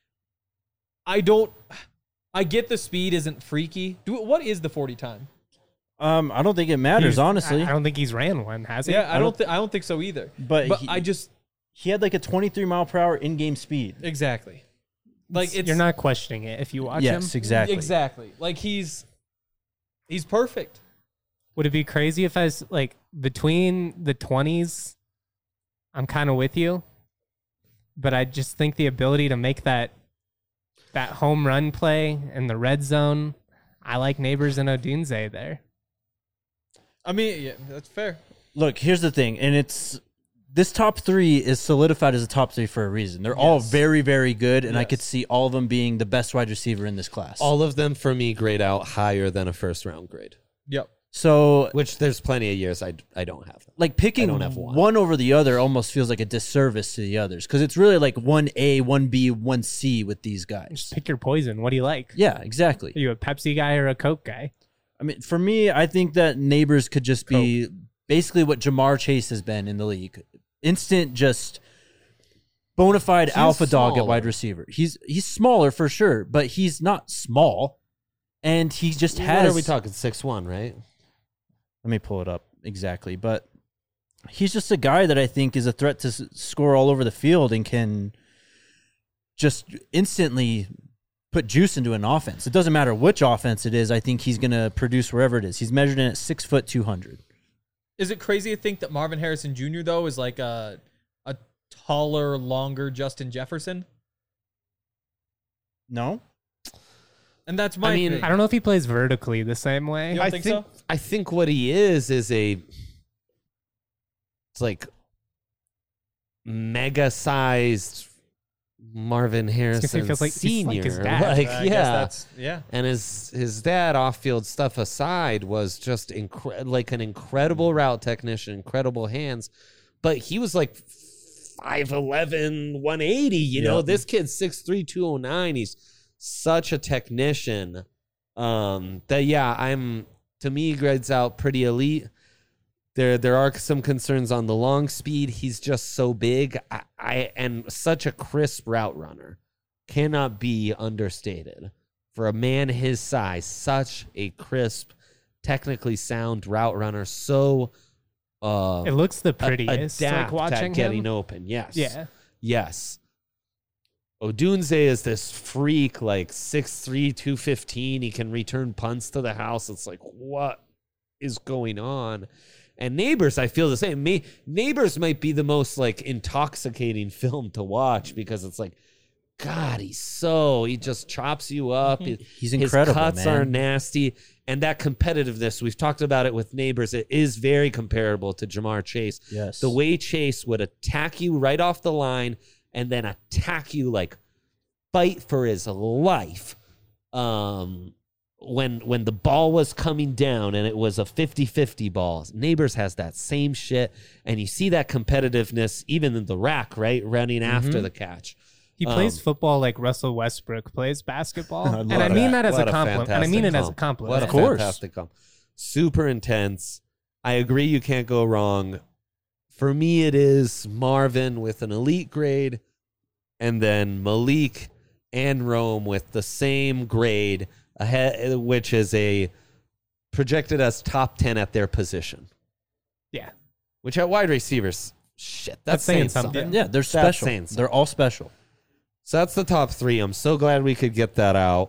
I don't I get the speed isn't freaky. Do what is the forty time? Um, I don't think it matters, He's- honestly. I, I don't think he's ran one, has he? Yeah, I don't th- I don't think so either. But But he- I just He had like a twenty-three mile per hour in-game speed. exactly. Like, it's You're not questioning it if you watch Yes, him. exactly. Exactly. Like, he's he's perfect. Would it be crazy if I was like between the twenties? I'm kind of with you, but I just think the ability to make that that home run play in the red zone. I like Neighbors and Odunze there. I mean, yeah, that's fair. Look, here's the thing, and it's this top three is solidified as a top three for a reason. They're all Yes. very, very good, and I Yes. could see all of them being the best wide receiver in this class. All of them, for me, grade out higher than a first round grade. Yep. So, Which there's plenty of years I, I don't have them. like picking I don't have one. one over the other almost feels like a disservice to the others because it's really like one A, one B, one C with these guys. Pick your poison. What do you like? Yeah, exactly. Are you a Pepsi guy or a Coke guy? I mean, for me, I think that Neighbors could just be basically what Jamar Chase has been in the league. Instant, just bona fide He's alpha dog at smaller. wide receiver. He's he's smaller for sure, but he's not small, and he just has. What are we talking? six one, right? Let me pull it up exactly, but he's just a guy that I think is a threat to s- score all over the field and can just instantly put juice into an offense. It doesn't matter which offense it is. I think he's going to produce wherever it is. He's measured in at six foot two hundred. Is it crazy to think that Marvin Harrison Junior though is like a a taller, longer Justin Jefferson? No, And that's my I mean, thing. I don't know if he plays vertically the same way. You don't I think think so? I think what he is is a it's like mega sized Marvin say, he Harrison feels like- he's like Senior. his dad. Like, I guess yeah. that's yeah. And his his dad off field stuff aside was just incre- like an incredible route technician, incredible hands, but he was like five eleven, one eighty, you know. Yep. This kid's six three, two oh nine. He's such a technician. Um that yeah, I'm to me grades out pretty elite. There there are some concerns on the long speed. He's just so big. I, I and such a crisp route runner. Cannot be understated. For a man his size, such a crisp, technically sound route runner. So uh It looks the a- prettiest. adapt Like watching at getting him. open. Yes. Yeah. Yes. Odunze is this freak, like six three, two fifteen. He can return punts to the house. It's like, what is going on? And Neighbors, I feel the same. Me, Neighbors might be the most like intoxicating film to watch because it's like, God, he's so he just chops you up. He's His incredible, cuts man. are nasty, and that competitiveness. We've talked about it with Neighbors. It is very comparable to Jamar Chase. Yes. The way Chase would attack you right off the line and then attack you like fight for his life. Um, when when the ball was coming down and it was a fifty-fifty ball. Neighbors has that same shit, and you see that competitiveness even in the rack, right? Running after the catch. He plays Um, football like Russell Westbrook plays basketball. I and love I mean that. that as What a a compliment. And I mean fantastic it as a comp. compliment. What a Of course. fantastic comp. Super intense. I agree you can't go wrong. For me, it is Marvin with an elite grade, and then Malik and Rome with the same grade, ahead, which is a projected as top ten at their position. Yeah. Which at wide receivers, shit, that's, That's saying saying something. something. Yeah, they're That's special. saying something. They're all special. So that's the top three. I'm so glad we could get that out.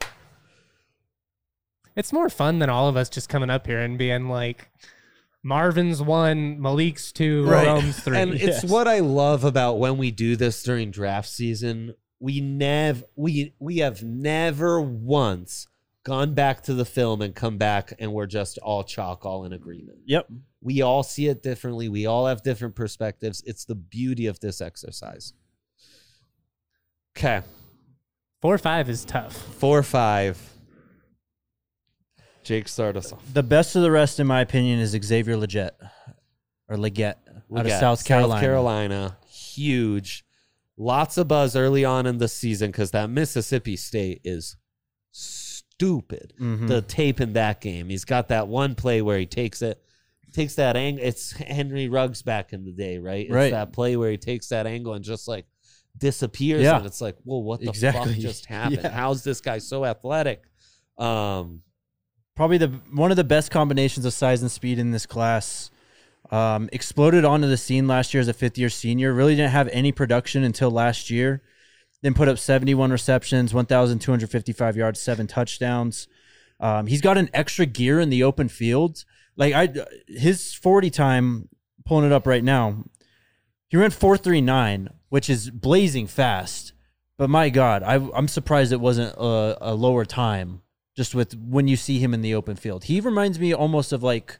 It's more fun than all of us just coming up here and being like, Marvin's one, Malik's two, Right. Rome's three. And it's what I love about when we do this during draft season. We never we we have never once gone back to the film and come back and we're just all chalk, all in agreement. Yep. We all see it differently. We all have different perspectives. It's the beauty of this exercise. Okay. Four five is tough. Four five. Jake, start us off. The best of the rest, in my opinion, is Xavier Legette or Leggett out of Leggett, South Carolina. South Carolina, huge. Lots of buzz early on in the season because that Mississippi State is stupid. Mhm. The tape in that game. He's got that one play where he takes it, takes that angle. It's Henry Ruggs back in the day, right? It's Right. that play where he takes that angle and just like disappears. Yeah. And it's like, well, what the Exactly. fuck just happened? Yeah. How's this guy so athletic? Um, Probably the one of the best combinations of size and speed in this class. Um, exploded onto the scene last year as a fifth-year senior. Really didn't have any production until last year. Then put up seventy-one receptions, one thousand two hundred fifty-five yards, seven touchdowns. Um, he's got an extra gear in the open field. Like I, his forty time, pulling it up right now, he ran four three nine, which is blazing fast. But my God, I, I'm surprised it wasn't a, a lower time. Just with when you see him in the open field, he reminds me almost of like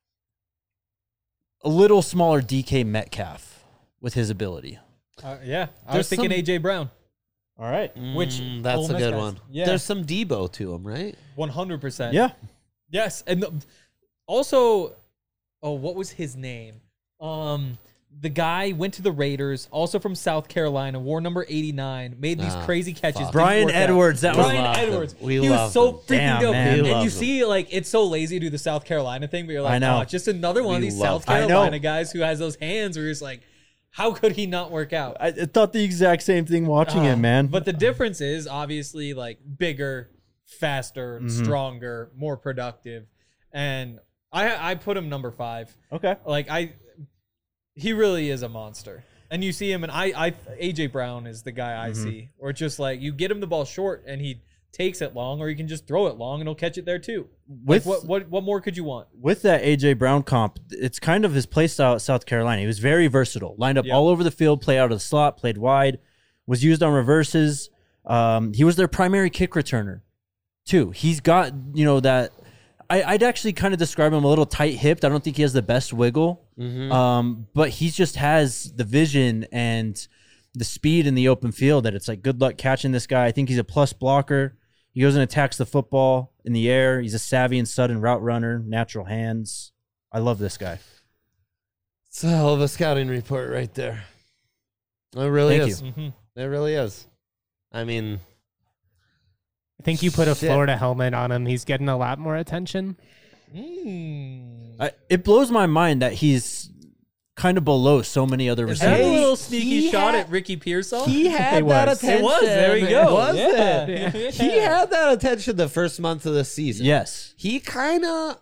a little smaller D K Metcalf with his ability. Uh, yeah, I There's was thinking some- A J Brown. All right. Which mm, that's Ole a Miss good guys. one. Yeah. There's some Debo to him, right? one hundred percent. Yeah. Yes, and the, also, oh, what was his name? Um, the guy went to the Raiders, also from South Carolina, wore number eighty-nine, made these Ah, crazy catches. fuck. didn't Brian work out. Edwards, that was- Brian loved him. Edwards. We he was loved so him. freaking Damn, dope. man. We And loved you him. see, like, it's so lazy to do the South Carolina thing, but you're like, I know. oh, just another one We of these loved South him. I know. Carolina guys who has those hands where you're just like, how could he not work out? I, I thought the exact same thing watching Uh, it, man. But the difference is obviously like bigger, faster, Mm-hmm. stronger, more productive. And I I put him number five. okay. Like I he really is a monster. And you see him and I I A J Brown is the guy I Mm-hmm. see. Or it's just like you get him the ball short and he takes it long, or you can just throw it long and he'll catch it there too. With Like what what what more could you want? with that A J Brown comp, it's kind of his play style at South Carolina. He was very versatile, lined up Yeah. all over the field, play out of the slot, played wide, was used on reverses. Um, he was their primary kick returner, too. He's got, you know, that. I, I'd actually kind of describe him a little tight hipped. I don't think he has the best wiggle, um, but he just has the vision and the speed in the open field that it's like, good luck catching this guy. I think he's a plus blocker. He goes and attacks the football in the air. He's a savvy and sudden route runner, natural hands. I love this guy. It's a hell of a scouting report right there. It really Thank is. you. Mhm. It really is. I mean, I think you put a Shit. Florida helmet on him. He's getting a lot more attention. Mm. I, it blows my mind that he's kind of below so many other Is that a receivers. little sneaky he shot had- at Ricky Pearsall? he had It that was. attention. It was. There you go. Was Yeah. it? Yeah. He had that attention the first month of the season. Yes. He kind of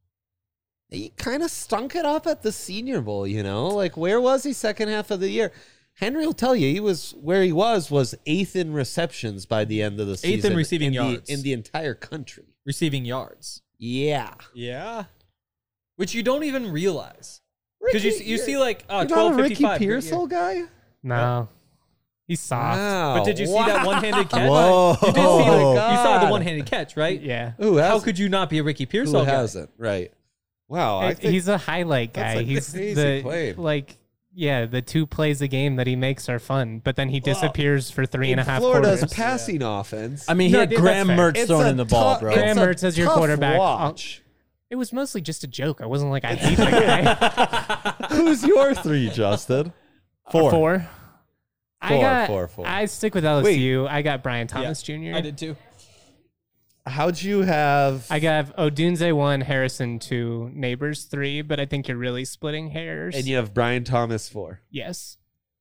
he kind of stunk it up at the Senior Bowl, you know? Like, where was he second half of the year? Henry will tell you he was where he was was eighth in receptions by the end of the season. in receiving in yards. the, in the entire country. Receiving yards. Yeah. Yeah. Which you don't even realize. Because you, Ricky, you see like uh, You're not twelve a Ricky fifty-five. Pearsall guy? No. He's soft. Wow. But did you see that one-handed catch? Whoa. You did see Oh, the, you saw the God. one-handed catch, right? Yeah. Who How hasn't? could you not be a Ricky Who Pearsall guy? hasn't? Right. Wow. I Hey, think he's a highlight that's guy. a He's crazy the claim. like yeah, the two plays a game that he makes are fun, but then he disappears for three and a half Florida's quarters. passing offense. I mean, he No, had dude, Graham that's fair. Mertz It's throwing a in the ball, tough- bro. it's Graham a Mertz as your tough quarterback. watch. It was mostly just a joke. I wasn't like I hate the guy. Who's your three, Justin? Four. Four. I Four, got. four, four. I stick with L S U. I got Brian Thomas Junior I did too. How'd you have? I got Odunze one, Harrison two, Neighbors three, but I think you're really splitting hairs. and you have Brian Thomas four. yes.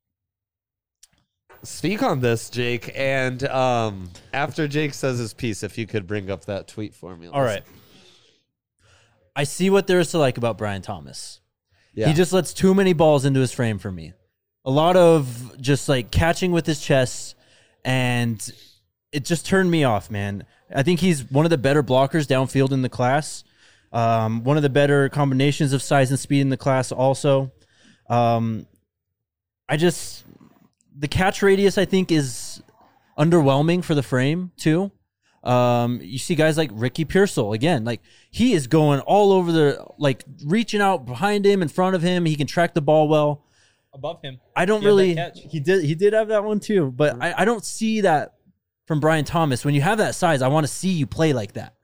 Speak on this, Jake. And um, after Jake says his piece, if you could bring up that tweet for me. All right. I see what there is to like about Brian Thomas. Yeah. He just lets too many balls into his frame for me. A lot of just like catching with his chest, and it just turned me off, man. I think he's one of the better blockers downfield in the class. Um, one of the better combinations of size and speed in the class also. Um, I just, the catch radius I think is underwhelming for the frame too. Um, you see guys like Ricky Pearsall again, like he is going all over the, like reaching out behind him, in front of him. He can track the ball well. Above him. I don't He had that really, catch. he did, he did have that one too, but I, I don't see that from Brian Thomas. When you have that size, I want to see you play like that.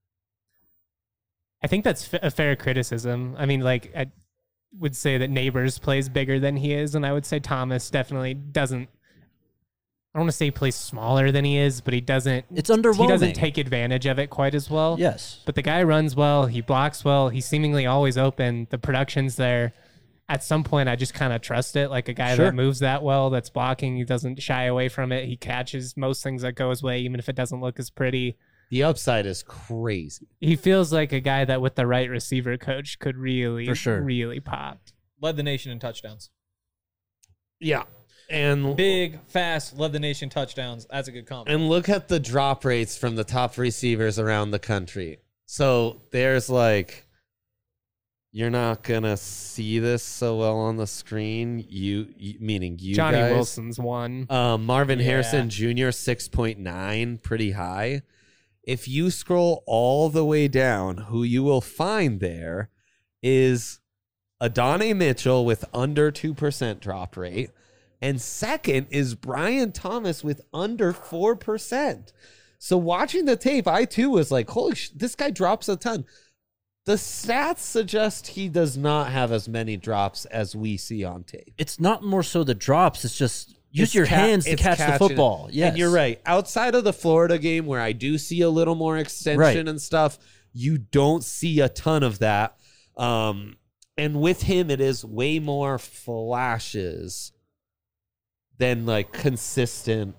I think that's f- a fair criticism. I mean, like, I would say that Neighbors plays bigger than he is, and I would say Thomas definitely doesn't. I don't want to say he plays smaller than he is, but he doesn't. It's He underwhelming. doesn't take advantage of it quite as well. Yes. But the guy runs well. He blocks well. He's seemingly always open. The production's there. At some point, I just kind of trust it. Like a guy Sure. that moves that well, that's blocking, he doesn't shy away from it. He catches most things that go his way, even if it doesn't look as pretty. The upside is crazy. He feels like a guy that with the right receiver coach could really, For sure. really pop. Led the nation in touchdowns. Yeah. And Big, fast, led the nation touchdowns. That's a good comp. and look at the drop rates from the top receivers around the country. So there's like, you're not gonna see this so well on the screen. You, you meaning you Johnny guys. Wilson's one. Um, Marvin Yeah. Harrison Junior six point nine, pretty high. If you scroll all the way down, who you will find there is Adonai Mitchell with under two percent drop rate. And second is Brian Thomas with under four percent. So watching the tape, I too was like, holy sh- this guy drops a ton. The stats suggest he does not have as many drops as we see on tape. It's not more so the drops. It's just use It's your ca- hands to it's catch the catching football. it. Yes. And you're right. Outside of the Florida game where I do see a little more extension Right. and stuff, you don't see a ton of that. Um, and with him, it is way more flashes than like consistent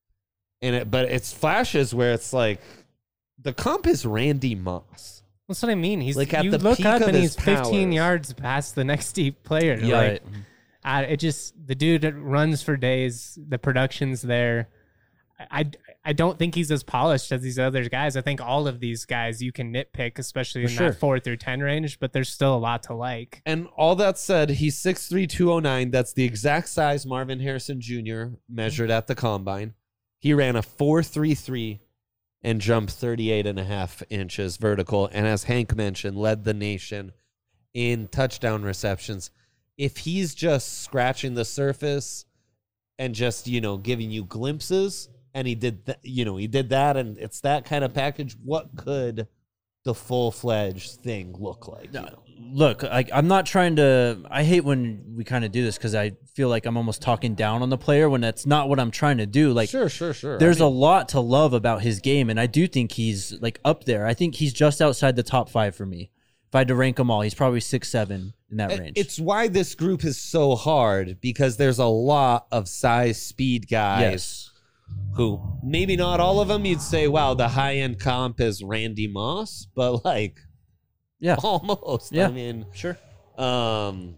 in it. But it's flashes where it's like the comp is Randy Moss. That's what I mean. He's Like, at you the look peak up of and his he's fifteen powers. yards past the next deep player. Yeah. Like, Right. I, it just the dude that runs for days. The production's there. I, I, I don't think he's as polished as these other guys. I think all of these guys you can nitpick, especially For in sure. that four through ten range. But there's still a lot to like. And all that said, he's six three, two oh nine. That's the exact size Marvin Harrison Junior measured at the combine. He ran a four three three and jumped thirty-eight and a half inches vertical. And as Hank mentioned, led the nation in touchdown receptions. If he's just scratching the surface and just, you know, giving you glimpses, and he did that, you know, he did that, and it's that kind of package, what could the full-fledged thing look like? You know? Look, I, I'm not trying to. I hate when we kind of do this because I feel like I'm almost talking down on the player when that's not what I'm trying to do. Like, sure, sure, sure. there's I mean, a lot to love about his game, and I do think he's like up there. I think he's just outside the top five for me. If I had to rank them all, he's probably six, seven in that It- range. It's why this group is so hard, because there's a lot of size speed guys yes, who maybe not all of them you'd say, wow, the high end comp is Randy Moss, but like yeah, almost. Yeah. I mean, sure. um,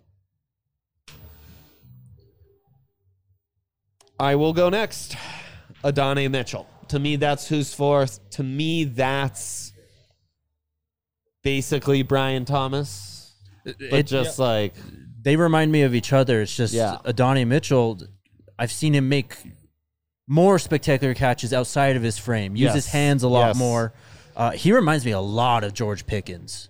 I will go next. Adonai Mitchell. To me, that's who's fourth. To me, that's basically Brian Thomas, but It- just like They remind me of each other. It's just Yeah. Adonai Mitchell. I've seen him make more spectacular catches outside of his frame. Use his Yes. hands a lot Yes. more. Uh, he reminds me a lot of George Pickens.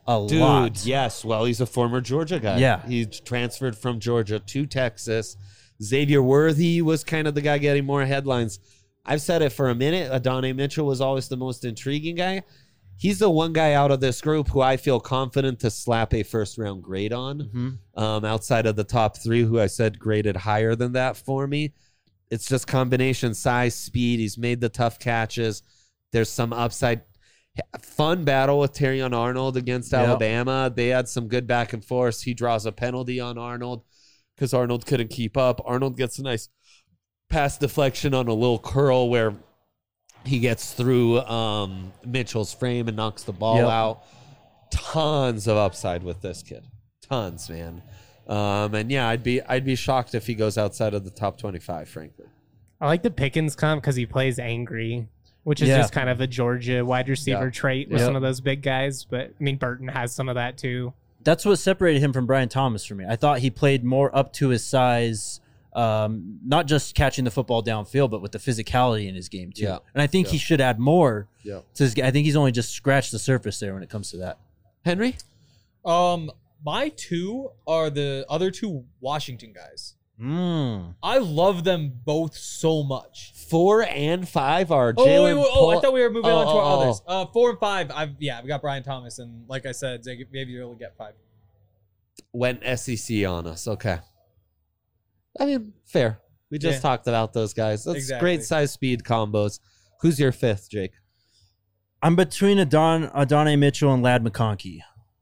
a Dude, lot. yes. Well, he's a former Georgia guy. Yeah. He transferred from Georgia to Texas. Xavier Worthy was kind of the guy getting more headlines. I've said it for a minute. Adonai Mitchell was always the most intriguing guy. He's the one guy out of this group who I feel confident to slap a first round grade on. Mm-hmm. Um, outside of the top three, who I said graded higher than that for me. It's just combination size, speed. He's made the tough catches. There's some upside. Fun battle with Terrion Arnold against Yep. Alabama. They had some good back and forth. He draws a penalty on Arnold because Arnold couldn't keep up. Arnold gets a nice pass deflection on a little curl where he gets through um, Mitchell's frame and knocks the ball Yep. out. Tons of upside with this kid. Tons, man. Um, and yeah, I'd be I'd be shocked if he goes outside of the top twenty-five, frankly. I like the Pickens comp because he plays angry, which is Yeah. just kind of a Georgia wide receiver Yeah. trait with Yep. some of those big guys. But I mean, Burton has some of that too. That's what separated him from Brian Thomas for me. I thought he played more up to his size, um, not just catching the football downfield, but with the physicality in his game too. Yeah. And I think Yeah. he should add more Yeah. to his game. I think he's only just scratched the surface there when it comes to that. Henry? Um, my two are the other two Washington guys. Mm. I love them both so much. Four and five are Oh, Jalen wait, wait, oh, I Pol- thought we were moving Oh, on to our oh, oh. others. Uh, four and five, I've yeah, we got Brian Thomas, and like I said, Xavier will get five. Went S E C on us. Okay. I mean, fair. We just Yeah. talked about those guys. That's Exactly. great size speed combos. Who's your fifth, Jake? I'm between Adon Adonai Mitchell and Lad McConkey.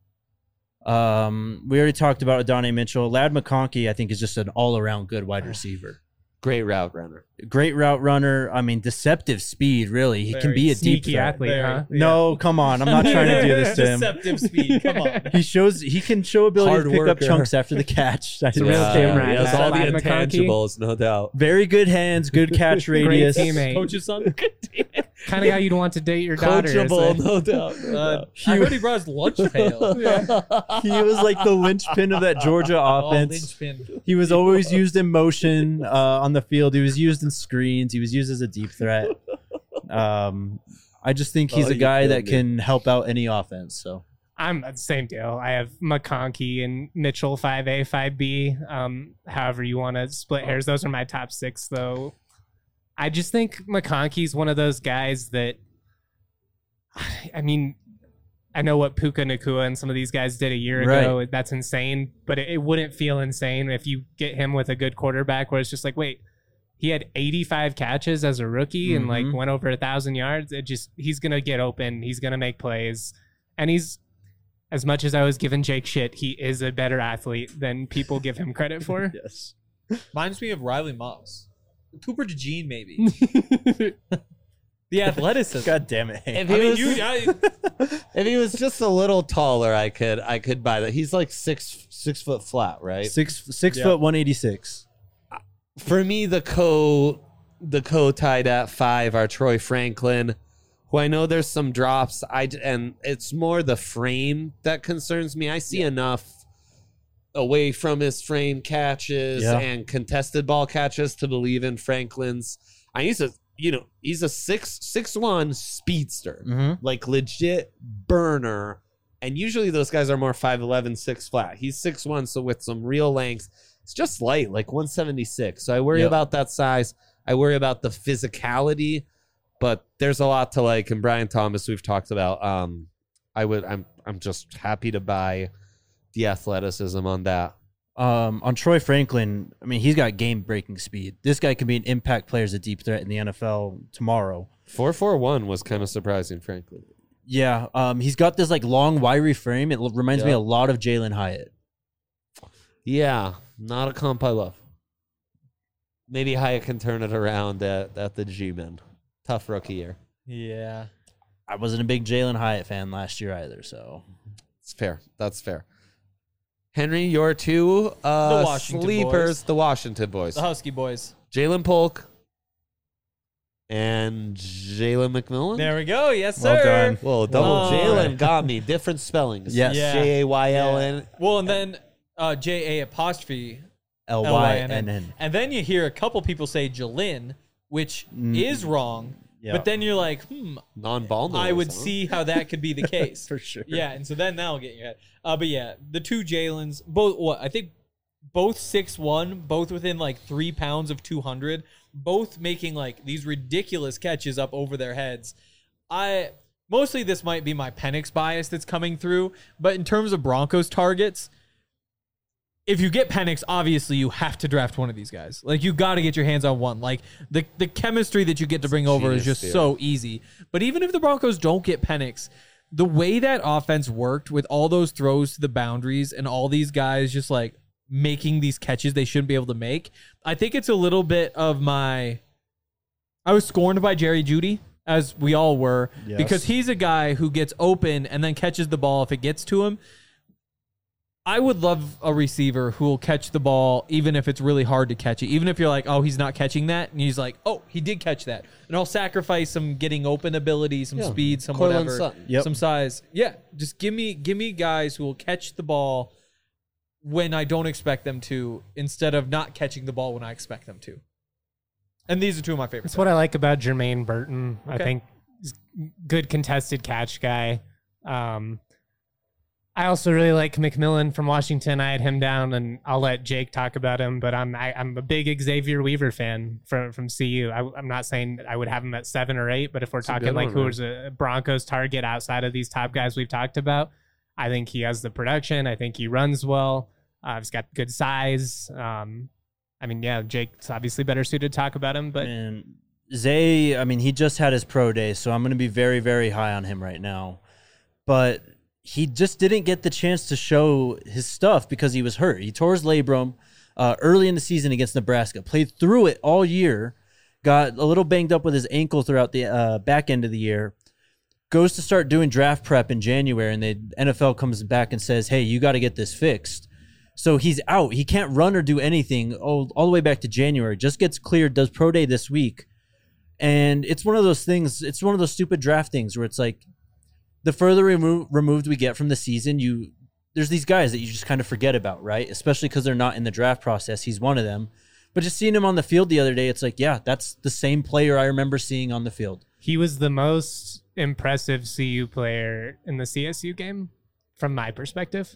Um, we already talked about Adonai Mitchell. Lad McConkey, I think, is just an all-around good wide receiver. Great route runner. Great route runner. I mean, deceptive speed. Really, he can Very be a deep Sneaky threat. athlete, Very- huh? yeah. No, come on. I'm not trying to do this to him. Deceptive speed. Come on. He shows he can show ability Hard to pick up worker. chunks after the catch. That's a real yeah. team rat. He has That all the Lad McConkey. intangibles, no doubt. Very good hands, good catch Great radius. teammate. Coach's son. Kind of how you'd want to date your daughter. is Coachable, it? no doubt. no Uh, doubt. I heard he brought his lunch pail. He was like the linchpin of that Georgia Oh, offense. linchpin. He was always used in motion uh, on the field. He was used in screens. He was used as a deep threat. Um, I just think he's Oh, a you guy killed that me. can help out any offense. So I'm the same deal. I have McConkey and Mitchell five A, five B. Um, however you want to split hairs. Those are my top six, though. I just think McConkey's one of those guys that, I mean, I know what Puka Nakua and some of these guys did a year ago. Right. That's insane, but it, it wouldn't feel insane if you get him with a good quarterback where it's just like, wait, he had eighty-five catches as a rookie and like Mhm. went over a thousand yards. It just, he's going to get open. He's going to make plays. And he's, as much as I was giving Jake shit, he is a better athlete than people give him credit for. yes, Reminds me of Riley Moss. Cooper DeJean, maybe. The athleticism. God damn it! Hank. If I he mean, was, you, I, if he was just a little taller, I could I could buy that. He's like six six foot flat, right? Six six Yeah. foot one eighty six. For me, the co the co tied at five are Troy Franklin, who I know there's some drops. I d- and it's more the frame that concerns me. I see enough away from his frame catches Yeah. and contested ball catches to believe in Franklin's. I he's a you know he's a six six one speedster, Mm-hmm. like legit burner. And usually those guys are more five eleven, six flat. He's six one, so with some real length. It's just light, like one seventy-six. So I worry Yep. about that size. I worry about the physicality, but there's a lot to like. And Brian Thomas, we've talked about. Um, I would. I'm. I'm just happy to buy the athleticism on that. Um, on Troy Franklin, I mean, he's got game breaking speed. This guy could be an impact player as a deep threat in the N F L tomorrow. Four four one was kind of surprising, frankly. Yeah, um, he's got this like long, wiry frame. It l- reminds me Yeah. a lot of Jalen Hyatt. Yeah, not a comp I love. Maybe Hyatt can turn it around at, at the G-Men. Tough rookie year. yeah. I wasn't a big Jalen Hyatt fan last year either, so It's fair. That's fair. Henry, your two uh, The Washington sleepers, boys. the Washington boys. The Husky boys. Jalen Polk and Jalen McMillan. There we go. Yes, Well sir. done. Whoa, double Oh. Jalen got me. Different spellings. Yes. Yeah. J A Y L N. Well, and then uh, J A apostrophe L Y L Y N N N. N. And then you hear a couple people say Jalen, which Mm. is wrong. Yeah. But then you're like, hmm, Non-ball. I would huh? see how that could be the case. For sure. Yeah, and so then that'll get in your head. Uh, but yeah, the two Jalen's, both, what, I think both six one, both within like three pounds of two hundred, both making like these ridiculous catches up over their heads. I mostly this might be my Penix bias that's coming through, but in terms of Broncos targets, if you get Penix, obviously you have to draft one of these guys. Like you got to get your hands on one. Like the the chemistry that you get to bring over is genius just theory. so easy. But even if the Broncos don't get Penix, the way that offense worked with all those throws to the boundaries and all these guys just like making these catches they shouldn't be able to make, I think it's a little bit of my. I was scorned by Jerry Jeudy, as we all were, Yes. because he's a guy who gets open and then catches the ball if it gets to him. I would love a receiver who will catch the ball even if it's really hard to catch it. Even if you're like, oh, he's not catching that. And he's like, oh, he did catch that. And I'll sacrifice some getting open ability, some Yeah. speed, some Cortland whatever, Sutton. Yep. some size. Yeah, just give me give me guys who will catch the ball when I don't expect them to instead of not catching the ball when I expect them to. And these are two of my favorites. That's what I like about Jermaine Burton. I Okay. think he's a good contested catch guy. Um, I also really like McMillan from Washington. I had him down, and I'll let Jake talk about him. But I'm I, I'm a big Xavier Weaver fan from from C U. I, I'm not saying I would have him at seven or eight, but if we're a talking good like one, who's a Broncos target outside of these top guys we've talked about, I think he has the production. I think he runs well. Uh, he's got good size. Um, I mean, yeah, Jake's obviously better suited to talk about him, but And Zay, I mean, he just had his pro day, so I'm going to be very, very high on him right now. But he just didn't get the chance to show his stuff because he was hurt. He tore his labrum uh, early in the season against Nebraska, played through it all year, got a little banged up with his ankle throughout the uh, back end of the year, goes to start doing draft prep in January, and the N F L comes back and says, hey, you got to get this fixed. So he's out. He can't run or do anything all, all the way back to January. Just gets cleared, does pro day this week. And it's one of those things, it's one of those stupid draft things where it's like the further remo- removed we get from the season, you there's these guys that you just kind of forget about, right? Especially because they're not in the draft process. He's one of them. But just seeing him on the field the other day, it's like, yeah, that's the same player I remember seeing on the field. he was the most impressive C U player in the C S U game from my perspective.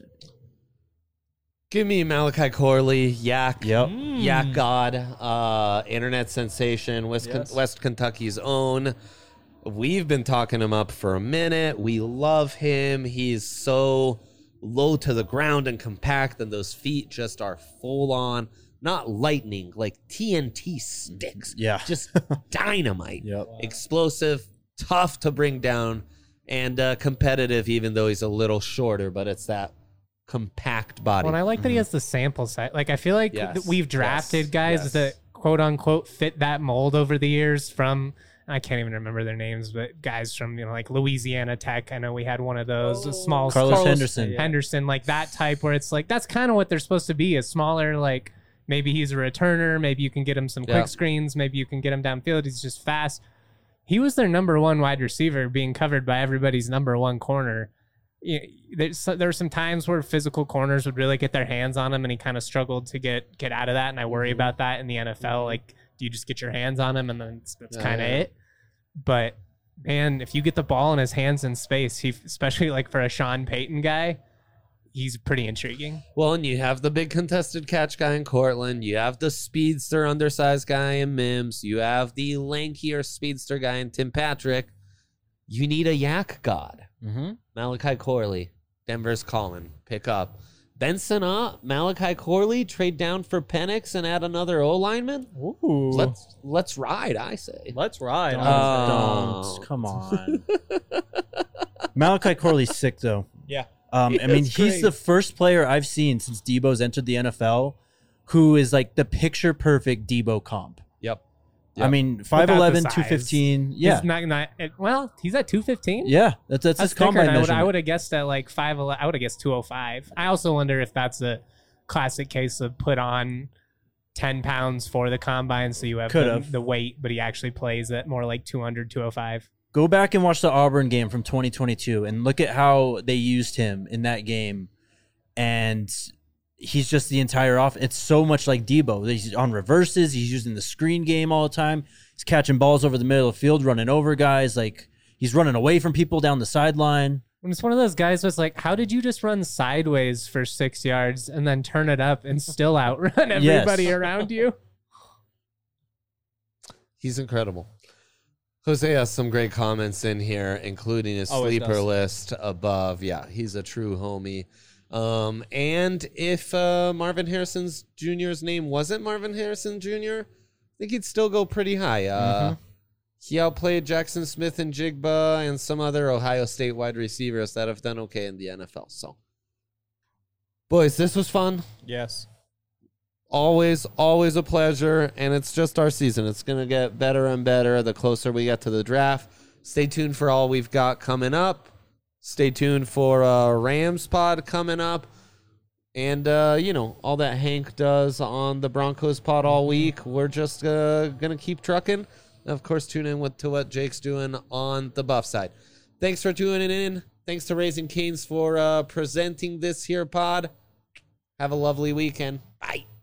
Give me Malachi Corley, Yak. Yep. Yak God, uh, internet sensation, West, Yes. West Kentucky's own. We've been talking him up for a minute. We love him. He's so low to the ground and compact, and those feet just are full on, not lightning, like T N T sticks. Yeah. Just dynamite. Yep. Explosive, tough to bring down, and uh, competitive, even though he's a little shorter, but it's that compact body. Well, and I like that he has the sample size. Like, I feel like Yes. th- we've drafted Yes. guys Yes. that quote unquote fit that mold over the years from, I can't even remember their names, but guys from, you know, like Louisiana Tech. I know we had one of those, a small Carlos Carlos Henderson. Henderson, like that type where it's like, that's kind of what they're supposed to be, a smaller, like maybe he's a returner. Maybe you can get him some quick Yeah. screens. Maybe you can get him downfield. He's just fast. He was their number one wide receiver being covered by everybody's number one corner. You know, there's there were some times where physical corners would really get their hands on him, and he kind of struggled to get get out of that. And I worry about that in the N F L. Like, do you just get your hands on him, and then that's, that's Yeah, kind of yeah. it? But man, if you get the ball in his hands in space, he especially like for a Sean Payton guy, he's pretty intriguing. Well, and you have the big contested catch guy in Cortland. You have the speedster, undersized guy in Mims. You have the lankier speedster guy in Tim Patrick. You need a yak god. Mm-hmm. Malachi Corley. Denver's calling. Pick up. Benson up. Malachi Corley. Trade down for Penix and add another O lineman. Ooh. Let's let's ride, I say. Let's ride. Don't, Oh. don't. Come on. Malachi Corley's sick, though. Yeah. Um, He I mean, is he's great. the first player I've seen since Debo's entered the N F L who is like the picture perfect Debo comp. Yep. I Yep. mean, five eleven, size. two fifteen. Yeah. He's not, not it- well, he's at two fifteen. Yeah. That's, that's, That's his thicker combine than I would, measurement. I would have guessed at like five. I would have guessed two oh five. I also wonder if that's a classic case of put on ten pounds for the combine, so you have the, Could've. the weight, but he actually plays at more like two hundred, two oh five. Go back and watch the Auburn game from twenty twenty-two and look at how they used him in that game. And he's just the entire off. It's so much like Debo. He's on reverses. He's using the screen game all the time. He's catching balls over the middle of the field, running over guys. Like he's running away from people down the sideline. And it's one of those guys was like, how did you just run sideways for six yards and then turn it up and still outrun everybody Yes. around you? He's incredible. Jose has some great comments in here, including his Always sleeper does. list above. Yeah, he's a true homie. Um, and if uh, Marvin Harrison's Junior's name wasn't Marvin Harrison Junior, I think he'd still go pretty high. Uh, Mm-hmm. He outplayed Jackson Smith and Jigba and some other Ohio State wide receivers that have done okay in the N F L. So, boys, this was fun. Yes. Always, always a pleasure, and it's just our season. It's going to get better and better the closer we get to the draft. Stay tuned for all we've got coming up. Stay tuned for uh, Rams pod coming up. And, uh, you know, all that Hank does on the Broncos pod all week. We're just uh, going to keep trucking. And, of course, tune in with, to what Jake's doing on the Buff side. Thanks for tuning in. Thanks to Raising Canes for uh, presenting this here pod. Have a lovely weekend. Bye.